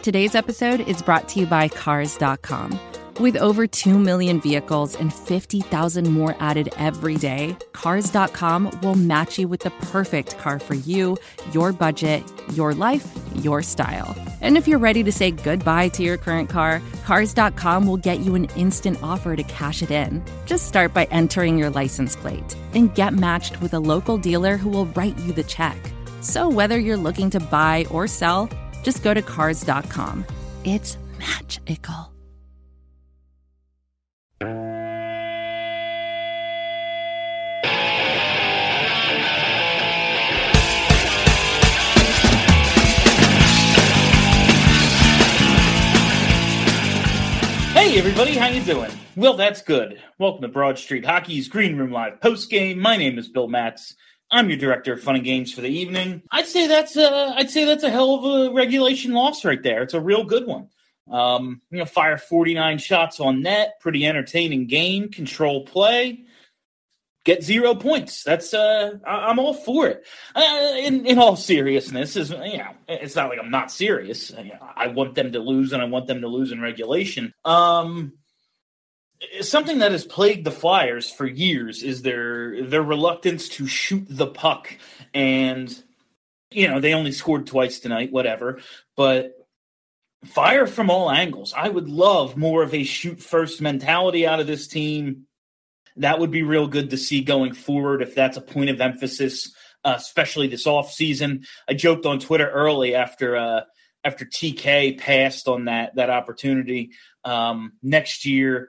Today's episode is brought to you by Cars.com. With over 2 million vehicles and 50,000 more added every day, Cars.com will match you with the perfect car for you, your budget, your life, your style. And if you're ready to say goodbye to your current car, Cars.com will get you an instant offer to cash it in. Just start by entering your license plate and get matched with a local dealer who will write you the check. So whether you're looking to buy or sell, just go to Cars.com. It's magical. Hey everybody, how you doing? Well, that's good. Welcome to Broad Street Hockey's Green Room Live postgame. My name is Bill Matz. I'm your director of fun and games for the evening. I'd say that's a hell of a regulation loss right there. It's a real good one. Fire 49 shots on net, pretty entertaining game, control play, get 0 points. That's I'm all for it. In all seriousness, it's not like I'm not serious. I want them to lose, and I want them to lose in regulation. Something that has plagued the Flyers for years is their reluctance to shoot the puck. And, they only scored twice tonight, whatever. But fire from all angles. I would love more of a shoot-first mentality out of this team. That would be real good to see going forward if that's a point of emphasis, especially this offseason. I joked on Twitter early after TK passed on that opportunity. Next year,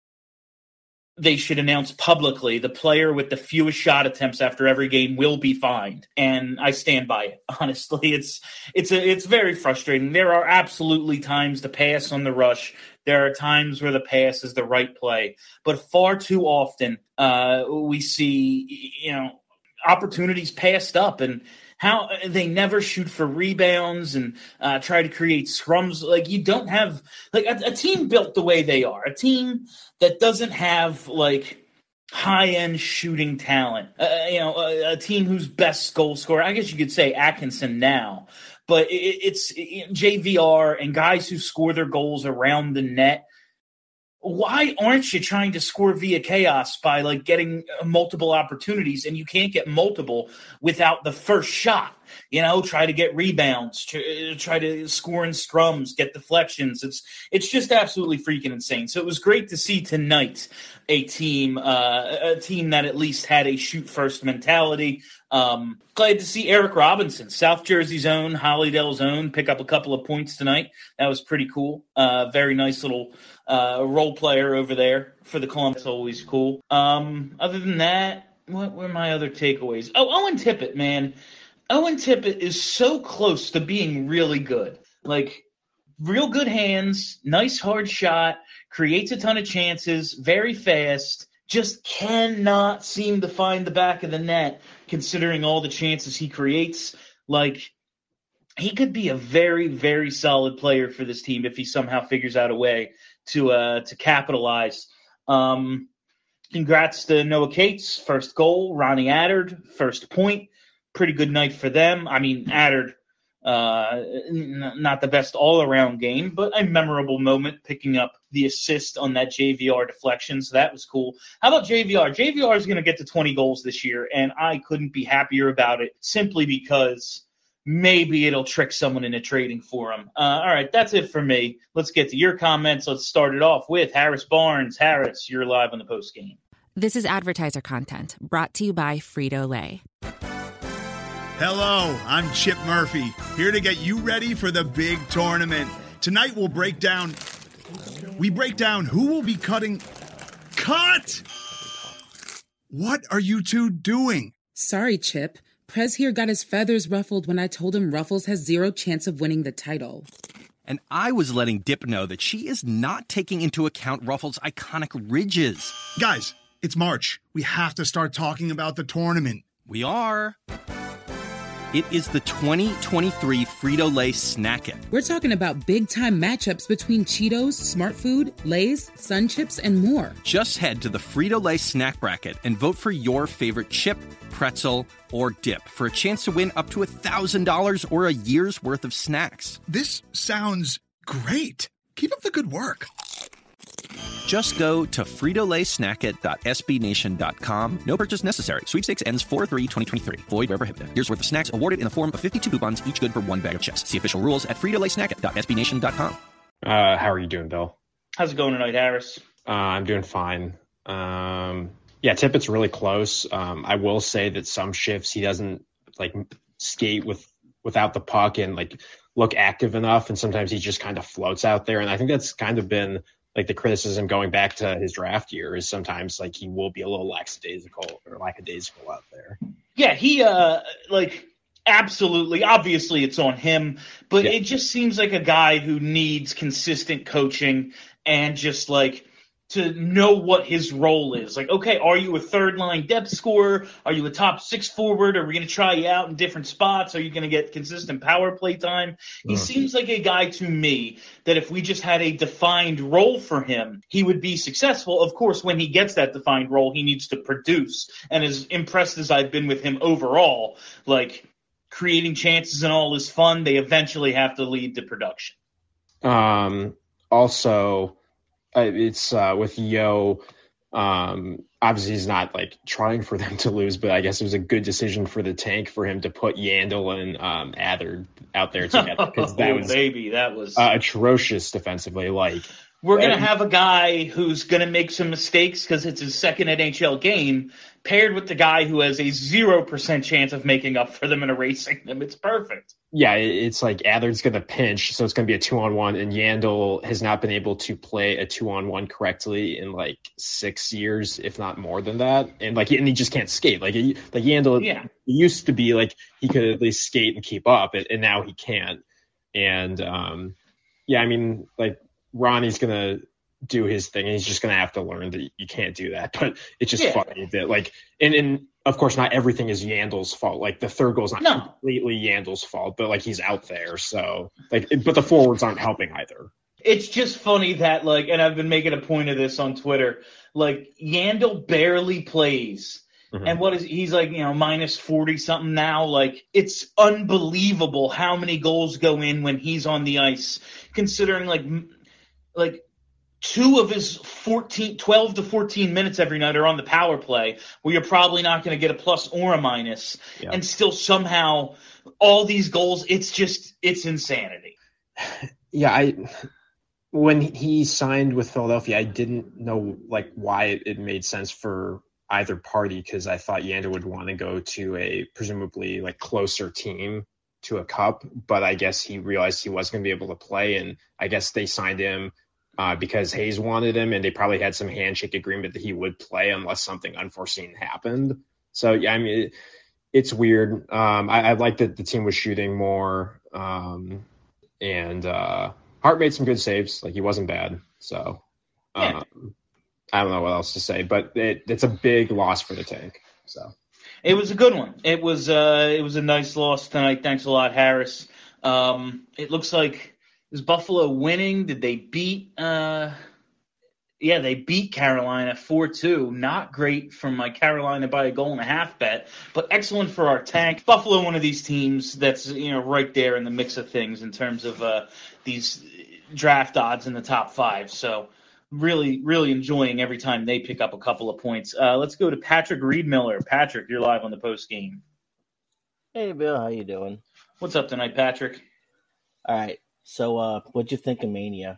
they should announce publicly the player with the fewest shot attempts after every game will be fined. And I stand by it. Honestly, it's very frustrating. There are absolutely times to pass on the rush. There are times where the pass is the right play. But far too often we see, opportunities passed up, and how they never shoot for rebounds and try to create scrums. Like, you don't have a team built the way they are, a team that doesn't have high-end shooting talent. A team whose best goal scorer, I guess you could say Atkinson now, but it's JVR and guys who score their goals around the net. Why aren't you trying to score via chaos by getting multiple opportunities? And you can't get multiple without the first shot. Try to get rebounds, try to score in scrums, get deflections. It's just absolutely freaking insane. So it was great to see tonight a team that at least had a shoot first mentality. Glad to see Eric Robinson, South Jersey's own, Hollydale's own, pick up a couple of points tonight. That was pretty cool. Very nice little role player over there for the Columbus. Always cool. Other than that, what were my other takeaways? Oh, Owen Tippett, man. Owen Tippett is so close to being really good. Real good hands, nice hard shot, creates a ton of chances, very fast, just cannot seem to find the back of the net considering all the chances he creates. He could be a very, very solid player for this team if he somehow figures out a way to capitalize. Congrats to Noah Cates, first goal. Ronnie Attard, first point. Pretty good night for them. I mean, Attard, not the best all-around game, but a memorable moment picking up the assist on that JVR deflection, so that was cool. How about JVR? JVR is going to get to 20 goals this year, and I couldn't be happier about it simply because maybe it'll trick someone into trading for him. All right, that's it for me. Let's get to your comments. Let's start it off with Harris Barnes. Harris, you're live on the postgame. This is advertiser content brought to you by Frito-Lay. Hello, I'm Chip Murphy, here to get you ready for the big tournament. Tonight we'll break down who will be cutting. Cut! What are you two doing? Sorry, Chip. Prez here got his feathers ruffled when I told him Ruffles has zero chance of winning the title. And I was letting Dip know that she is not taking into account Ruffles' iconic ridges. Guys, it's March. We have to start talking about the tournament. We are. It is the 2023 Frito-Lay Snack It. We're talking about big-time matchups between Cheetos, Smart Food, Lay's, Sun Chips, and more. Just head to the Frito-Lay Snack Bracket and vote for your favorite chip, pretzel, or dip for a chance to win up to $1,000 or a year's worth of snacks. This sounds great. Keep up the good work. Just go to fritolaysnackit.sbnation.com. No purchase necessary. Sweepstakes ends 4/3/2023. Void where prohibited. Year's worth of snacks awarded in the form of 52 coupons, each good for one bag of chips. See official rules at fritolaysnackit.sbnation.com. How are you doing, Bill? How's it going tonight, Harris? I'm doing fine. Tippett's really close. I will say that some shifts he doesn't skate without the puck and look active enough, and sometimes he just kind of floats out there. And I think that's kind of been the criticism going back to his draft year is sometimes he will be a little lackadaisical out there. Yeah, he absolutely, obviously it's on him, but It just seems like a guy who needs consistent coaching and just to know what his role is. Okay, are you a third line depth scorer? Are you a top six forward? Are we going to try you out in different spots? Are you going to get consistent power play time? He seems like a guy to me that if we just had a defined role for him, he would be successful. Of course, when he gets that defined role, he needs to produce. And as impressed as I've been with him overall, creating chances and all is fun. They eventually have to lead to production. Also, it's with Yo. Obviously, he's not trying for them to lose, but I guess it was a good decision for the tank for him to put Yandel and Adler out there together because that was atrocious defensively. We're going to have a guy who's going to make some mistakes because it's his second NHL game, paired with the guy who has a 0% chance of making up for them and erasing them. It's perfect. Yeah, it's Adler's going to pinch, so it's going to be a 2-on-1, and Yandel has not been able to play a 2-on-1 correctly in 6 years, if not more than that. And and he just can't skate. Yandel he used to be he could at least skate and keep up, and now he can't. And Ronnie's going to do his thing, and he's just going to have to learn that you can't do that. But it's just funny that, and of course, not everything is Yandel's fault. The third goal is not completely Yandel's fault, but, he's out there. So, but the forwards aren't helping either. It's just funny that, and I've been making a point of this on Twitter, Yandel barely plays. Mm-hmm. And he's minus 40 something now. It's unbelievable how many goals go in when he's on the ice, considering two of his 12 to 14 minutes every night are on the power play, where you're probably not going to get a plus or a minus, and still somehow all these goals, it's insanity. Yeah, when he signed with Philadelphia, I didn't know why it made sense for either party, because I thought Yandel would want to go to a presumably closer team to a cup, but I guess he realized he wasn't going to be able to play, and I guess they signed him because Hayes wanted him, and they probably had some handshake agreement that he would play unless something unforeseen happened. So, it's weird. I like that the team was shooting more, and Hart made some good saves. He wasn't bad. So, I don't know what else to say, but it's a big loss for the tank. So. It was a good one. It was a nice loss tonight. Thanks a lot, Harris. It looks like, is Buffalo winning? Did they beat? They beat Carolina 4-2. Not great from my Carolina by a 1.5 bet, but excellent for our tank. Buffalo, one of these teams that's right there in the mix of things in terms of these draft odds in the top 5. So really, really enjoying every time they pick up a couple of points. Let's go to Patrick Reed-Miller. Patrick, you're live on the post game. Hey, Bill, how you doing? What's up tonight, Patrick? All right. So, what'd you think of Mania?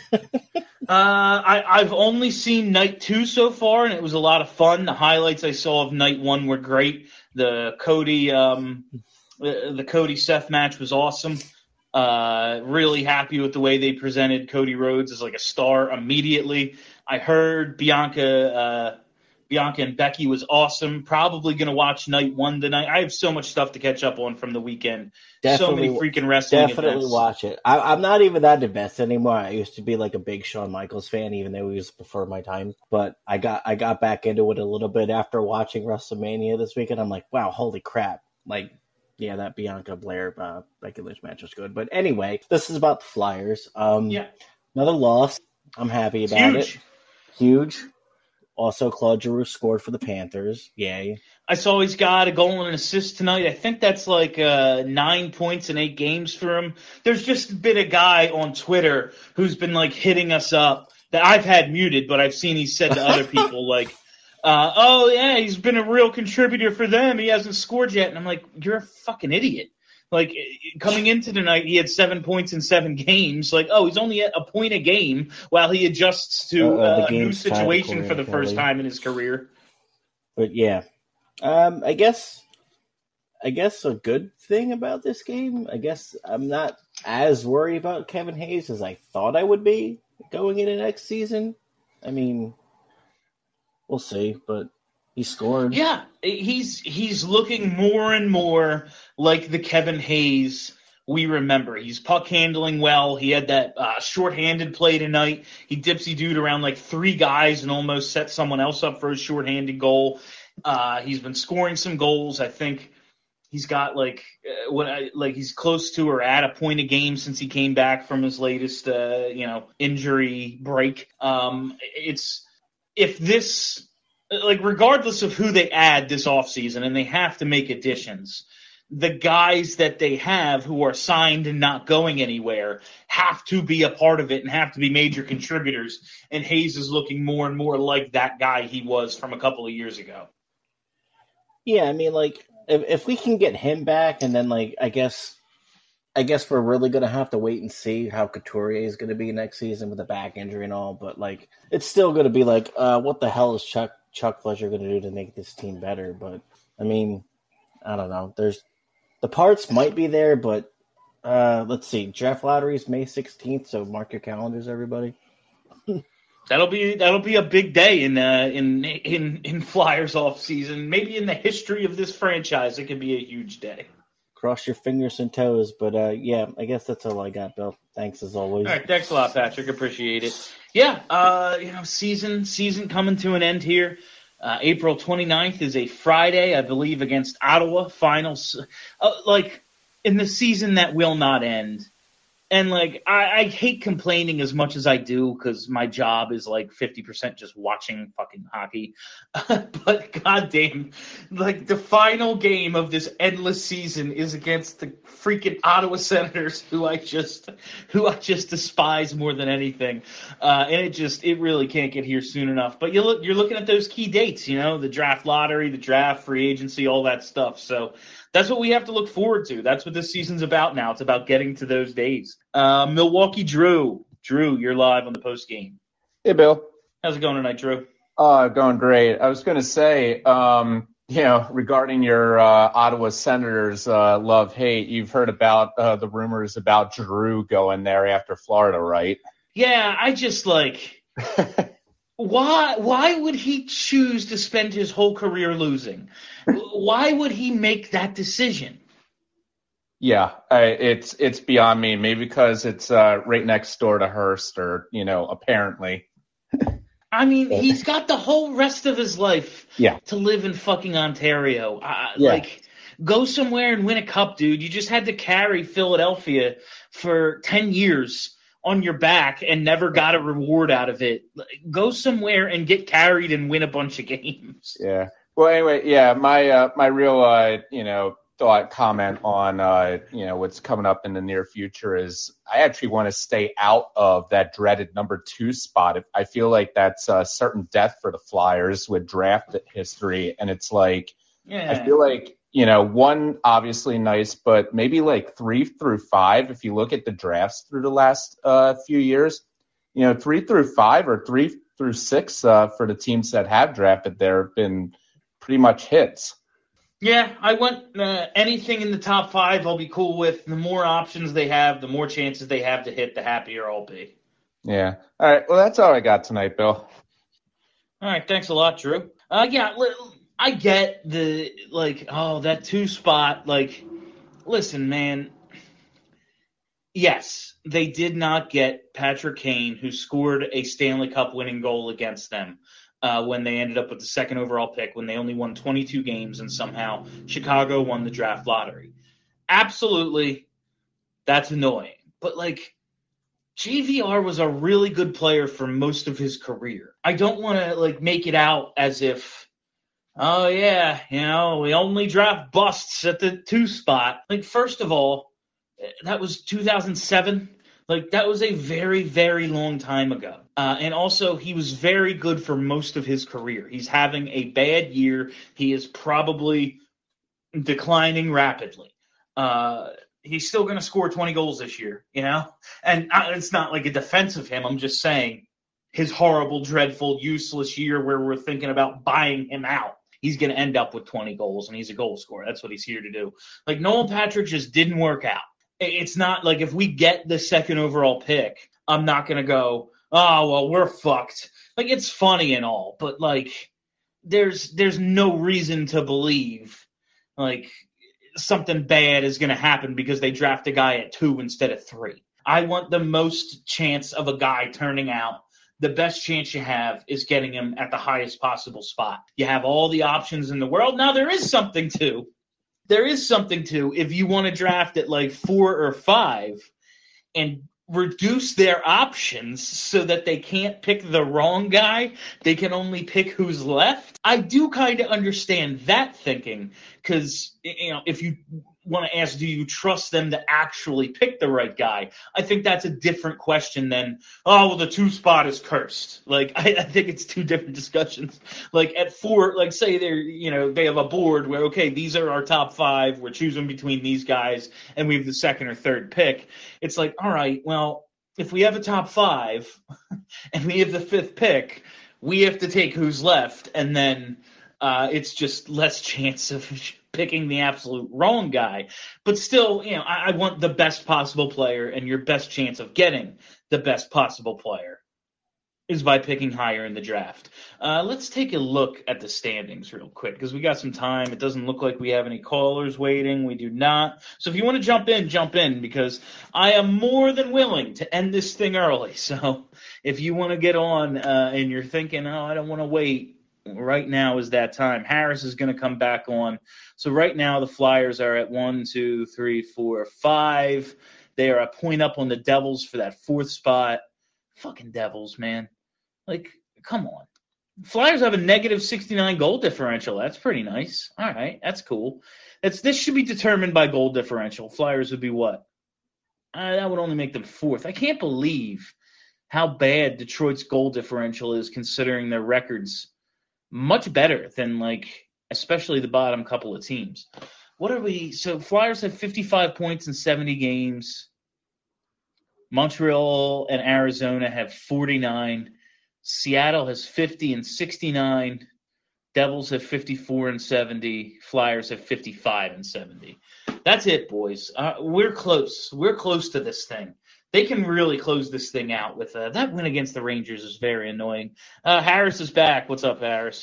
I've only seen night 2 so far, and it was a lot of fun. The highlights I saw of night 1 were great. The Cody Seth match was awesome. Really happy with the way they presented Cody Rhodes as a star immediately. I heard Bianca and Becky was awesome. Probably going to watch night 1 tonight. I have so much stuff to catch up on from the weekend. Definitely, so many freaking wrestling definitely events. Watch it. I'm not even that invested anymore. I used to be a big Shawn Michaels fan, even though he was before my time. But I got back into it a little bit after watching WrestleMania this weekend. I'm like, wow, holy crap. Yeah, that Bianca Blair Becky Lynch match was good. But anyway, this is about the Flyers. Yeah. Another loss. I'm happy about Huge. it. Huge. Also, Claude Giroux scored for the Panthers. Yay. I saw he's got a goal and an assist tonight. I think that's like 9 points in 8 games for him. There's just been a guy on Twitter who's been like hitting us up that I've had muted, but I've seen he's said to other people like, oh yeah, he's been a real contributor for them. He hasn't scored yet. And I'm like, you're a fucking idiot. Like, coming into tonight, he had 7 points in 7 games. Like, oh, he's only at a point a game while he adjusts to a new situation for the first time in his career. But yeah, I guess a good thing about this game, I guess I'm not as worried about Kevin Hayes as I thought I would be going into next season. I mean, we'll see, but he scored. Yeah, he's looking more and more like the Kevin Hayes we remember. He's puck handling well. He had that shorthanded play tonight. He dipsy-dooed around like 3 guys and almost set someone else up for a shorthanded goal. He's been scoring some goals. I think he's got he's close to or at a point a game since he came back from his latest injury break. Regardless of who they add this offseason, and they have to make additions, the guys that they have who are signed and not going anywhere have to be a part of it and have to be major contributors. And Hayes is looking more and more like that guy he was from a couple of years ago. Yeah, I mean, like, if we can get him back, and then, like, I guess we're really going to have to wait and see how Couturier is going to be next season with a back injury and all. But, like, it's still going to be like, what the hell is Chuck Fletcher going to do to make this team better? But, I mean, I don't know. The parts might be there, but let's see. Draft lottery is May 16th, so mark your calendars, everybody. That'll be a big day in Flyers off season. Maybe in the history of this franchise, it could be a huge day. Cross your fingers and toes, but yeah, I guess that's all I got, Bill. Thanks as always. All right, thanks a lot, Patrick. Appreciate it. Yeah, season coming to an end here. April 29th is a Friday, I believe, against Ottawa. Finals, in the season that will not end. And, I hate complaining as much as I do because my job is, 50% just watching fucking hockey. But, goddamn, the final game of this endless season is against the freaking Ottawa Senators, who I just despise more than anything. And it really can't get here soon enough. But you're looking at those key dates, the draft lottery, the draft, free agency, all that stuff. So that's what we have to look forward to. That's what this season's about now. It's about getting to those days. Milwaukee Drew. Drew, you're live on the post game. Hey, Bill. How's it going tonight, Drew? Going great. I was going to say, regarding your Ottawa Senators love-hate, you've heard about the rumors about Giroux going there after Florida, right? Yeah, I just Why would he choose to spend his whole career losing? Why would he make that decision? Yeah, it's beyond me. Maybe because it's right next door to Hearst, or apparently. I mean, he's got the whole rest of his life to live in fucking Ontario. Go somewhere and win a cup, dude. You just had to carry Philadelphia for 10 years on your back and never got a reward out of it. Go somewhere and get carried and win a bunch of games. Yeah. Well, anyway, my real comment on what's coming up in the near future is I actually want to stay out of that dreaded number 2 spot. I feel like that's a certain death for the Flyers with draft history, and it's I feel like 1 obviously nice, but maybe 3 through 5. If you look at the drafts through the last few years, 3 through 5 or 3 through 6 for the teams that have drafted there have been pretty much hits. Yeah, I want anything in the top 5 I'll be cool with. The more options they have, the more chances they have to hit, the happier I'll be. Yeah. All right. Well, that's all I got tonight, Bill. All right. Thanks a lot, Drew. I get that 2 spot. Listen, man. Yes, they did not get Patrick Kane, who scored a Stanley Cup winning goal against them when they ended up with the 2nd overall pick, when they only won 22 games and somehow Chicago won the draft lottery. absolutely, that's annoying. But, like, JVR was a really good player for most of his career. I don't want to, like, make it out as if, oh, yeah, you know, we only draft busts at the 2 spot. Like, first of all, that was 2007. Like, that was a very, very long time ago. And also, he was very good for most of his career. He's having a bad year. He is probably declining rapidly. He's still going to score 20 goals this year, you know? And it's not like a defense of him. I'm just saying his horrible, dreadful, useless year where we're thinking about buying him out. He's going to end up with 20 goals, and he's a goal scorer. That's what he's here to do. Like, Nolan Patrick just didn't work out. It's not like if we get the second overall pick, I'm not going to go, oh, well, we're fucked. Like, it's funny and all, but, like, there's no reason to believe, like, something bad is going to happen because they draft a guy at 2 instead of 3. I want the most chance of a guy turning out. The best chance you have is getting him at the highest possible spot. You have all the options in the world. Now, there is something to if you want to draft at like 4 or 5 and reduce their options so that they can't pick the wrong guy, they can only pick who's left. I do kind of understand that thinking because, you know, if you want to ask, do you trust them to actually pick the right guy? I think that's a different question than, oh, well, the 2 spot is cursed. Like, I think it's 2 different discussions. Like, at 4, like, say they're, you know, they have a board where, okay, these are our top 5. We're choosing between these guys, and we have the 2nd or 3rd pick. It's like, all right, well, if we have a top 5 and we have the 5th pick, we have to take who's left, and then it's just less chance of picking the absolute wrong guy. But still, you know, I want the best possible player, and your best chance of getting the best possible player is by picking higher in the draft. Let's take a look at the standings real quick because we got some time. It doesn't look like we have any callers waiting. We do not. So if you want to jump in because I am more than willing to end this thing early. So if you want to get on and you're thinking, oh, I don't want to wait, right now is that time. Harris is going to come back on. So right now the Flyers are at 1, 2, 3, 4, 5. They are a point up on the Devils for that 4th spot. Fucking Devils, man. Like, come on. Flyers have a negative 69 goal differential. That's pretty nice. All right, that's cool. This should be determined by goal differential. Flyers would be what? That would only make them 4th. I can't believe how bad Detroit's goal differential is considering their records much better than, like, especially the bottom couple of teams. What are we? So Flyers have 55 points in 70 games. Montreal and Arizona have 49. Seattle has 50 and 69. Devils have 54 and 70. Flyers have 55 and 70. That's it, boys. We're close. We're close to this thing. They can really close this thing out with that win against the Rangers is very annoying. Harris is back. What's up, Harris?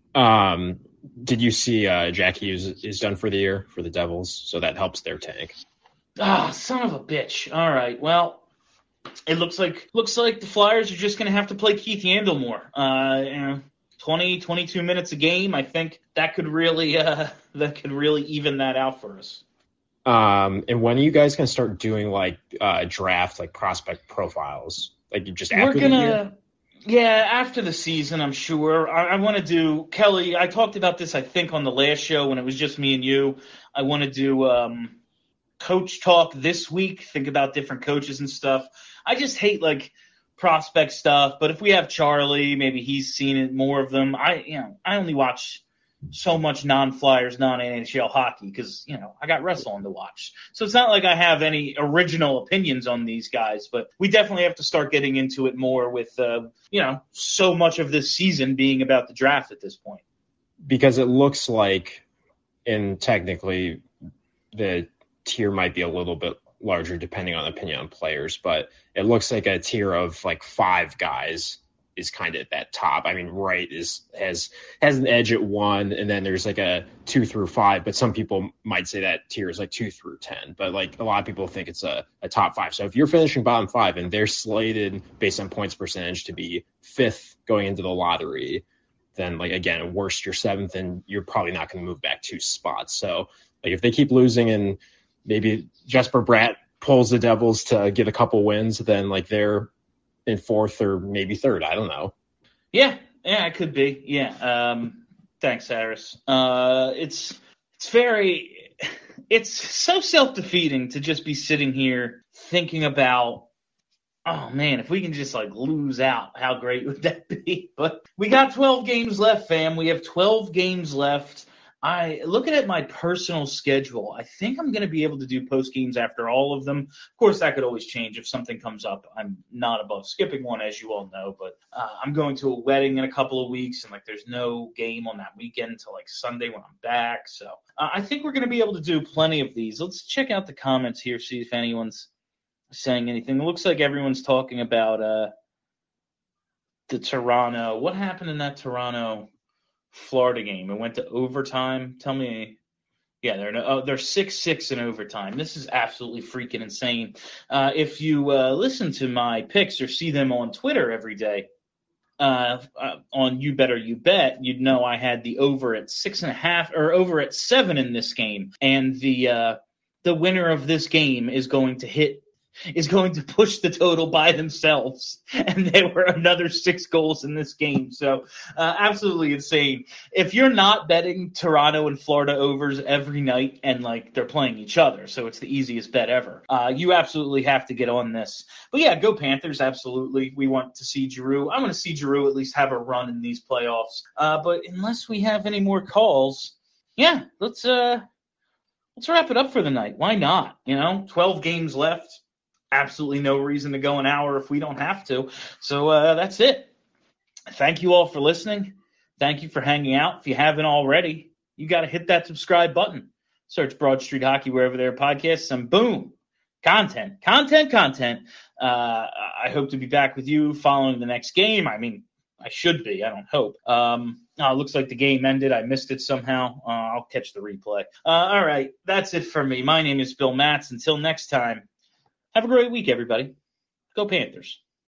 Did you see Jack Hughes is done for the year for the Devils, so that helps their tank. Son of a bitch. All right. Well, it looks like the Flyers are just going to have to play Keith Yandle more. 20, 22 minutes a game. I think that could really even that out for us. And when are you guys going to start doing like draft, like prospect profiles? Like just after the year? Yeah, after the season, I'm sure. I want to do, Kelly, I talked about this, I think, on the last show when it was just me and you. I want to do coach talk this week, think about different coaches and stuff. I just hate, like, prospect stuff, but if we have Charlie, maybe he's seen it, more of them. I only watch so much non-Flyers, non-NHL hockey because, I got wrestling to watch. So it's not like I have any original opinions on these guys, but we definitely have to start getting into it more with, so much of this season being about the draft at this point. Because it looks like, and technically the tier might be a little bit larger depending on opinion on players, but it looks like a tier of like 5 guys is kind of at that top. I mean, Wright has an edge at 1, and then there's like a 2 through 5, but some people might say that tier is like 2 through 10, but like a lot of people think it's a top 5. So if you're finishing bottom 5 and they're slated based on points percentage to be 5th going into the lottery, then like, again, worst you're 7th and you're probably not going to move back 2 spots. So like if they keep losing and maybe Jesper Bratt pulls the Devils to get a couple wins, then like they're in fourth or maybe third. I don't know. Yeah, it could be. Yeah. Thanks, Harris. It's so self-defeating to just be sitting here thinking about, oh man, if we can just like lose out, how great would that be? But we got 12 games left, fam. We have 12 games left. Looking at my personal schedule, I think I'm going to be able to do post games after all of them. Of course, that could always change if something comes up. I'm not above skipping one, as you all know, but I'm going to a wedding in a couple of weeks, and like there's no game on that weekend until like Sunday when I'm back. So I think we're going to be able to do plenty of these. Let's check out the comments here, see if anyone's saying anything. It looks like everyone's talking about the Toronto. What happened in that Toronto Florida game? It went to overtime. Tell me. Yeah, they're 6-6 in overtime. This is absolutely freaking insane. If you listen to my picks or see them on Twitter every day, on You Better You Bet, you'd know I had the over at 6.5 or over at 7 in this game, and the winner of this game is going to push the total by themselves, and there were another 6 goals in this game. So absolutely insane. If you're not betting Toronto and Florida overs every night, and like they're playing each other, so it's the easiest bet ever, you absolutely have to get on this. But yeah, go Panthers, absolutely. We want to see Giroux. I want to see Giroux at least have a run in these playoffs. But unless we have any more calls, yeah, let's wrap it up for the night. Why not? 12 games left. Absolutely no reason to go an hour if we don't have to. So that's it. Thank you all for listening. Thank you for hanging out. If you haven't already, you got to hit that subscribe button. Search Broad Street Hockey wherever there are podcasts, and boom, content. I hope to be back with you following the next game. I mean, I should be. I don't hope. Looks like the game ended. I missed it somehow. I'll catch the replay. All right, that's it for me. My name is Bill Matz. Until next time. Have a great week, everybody. Go Panthers.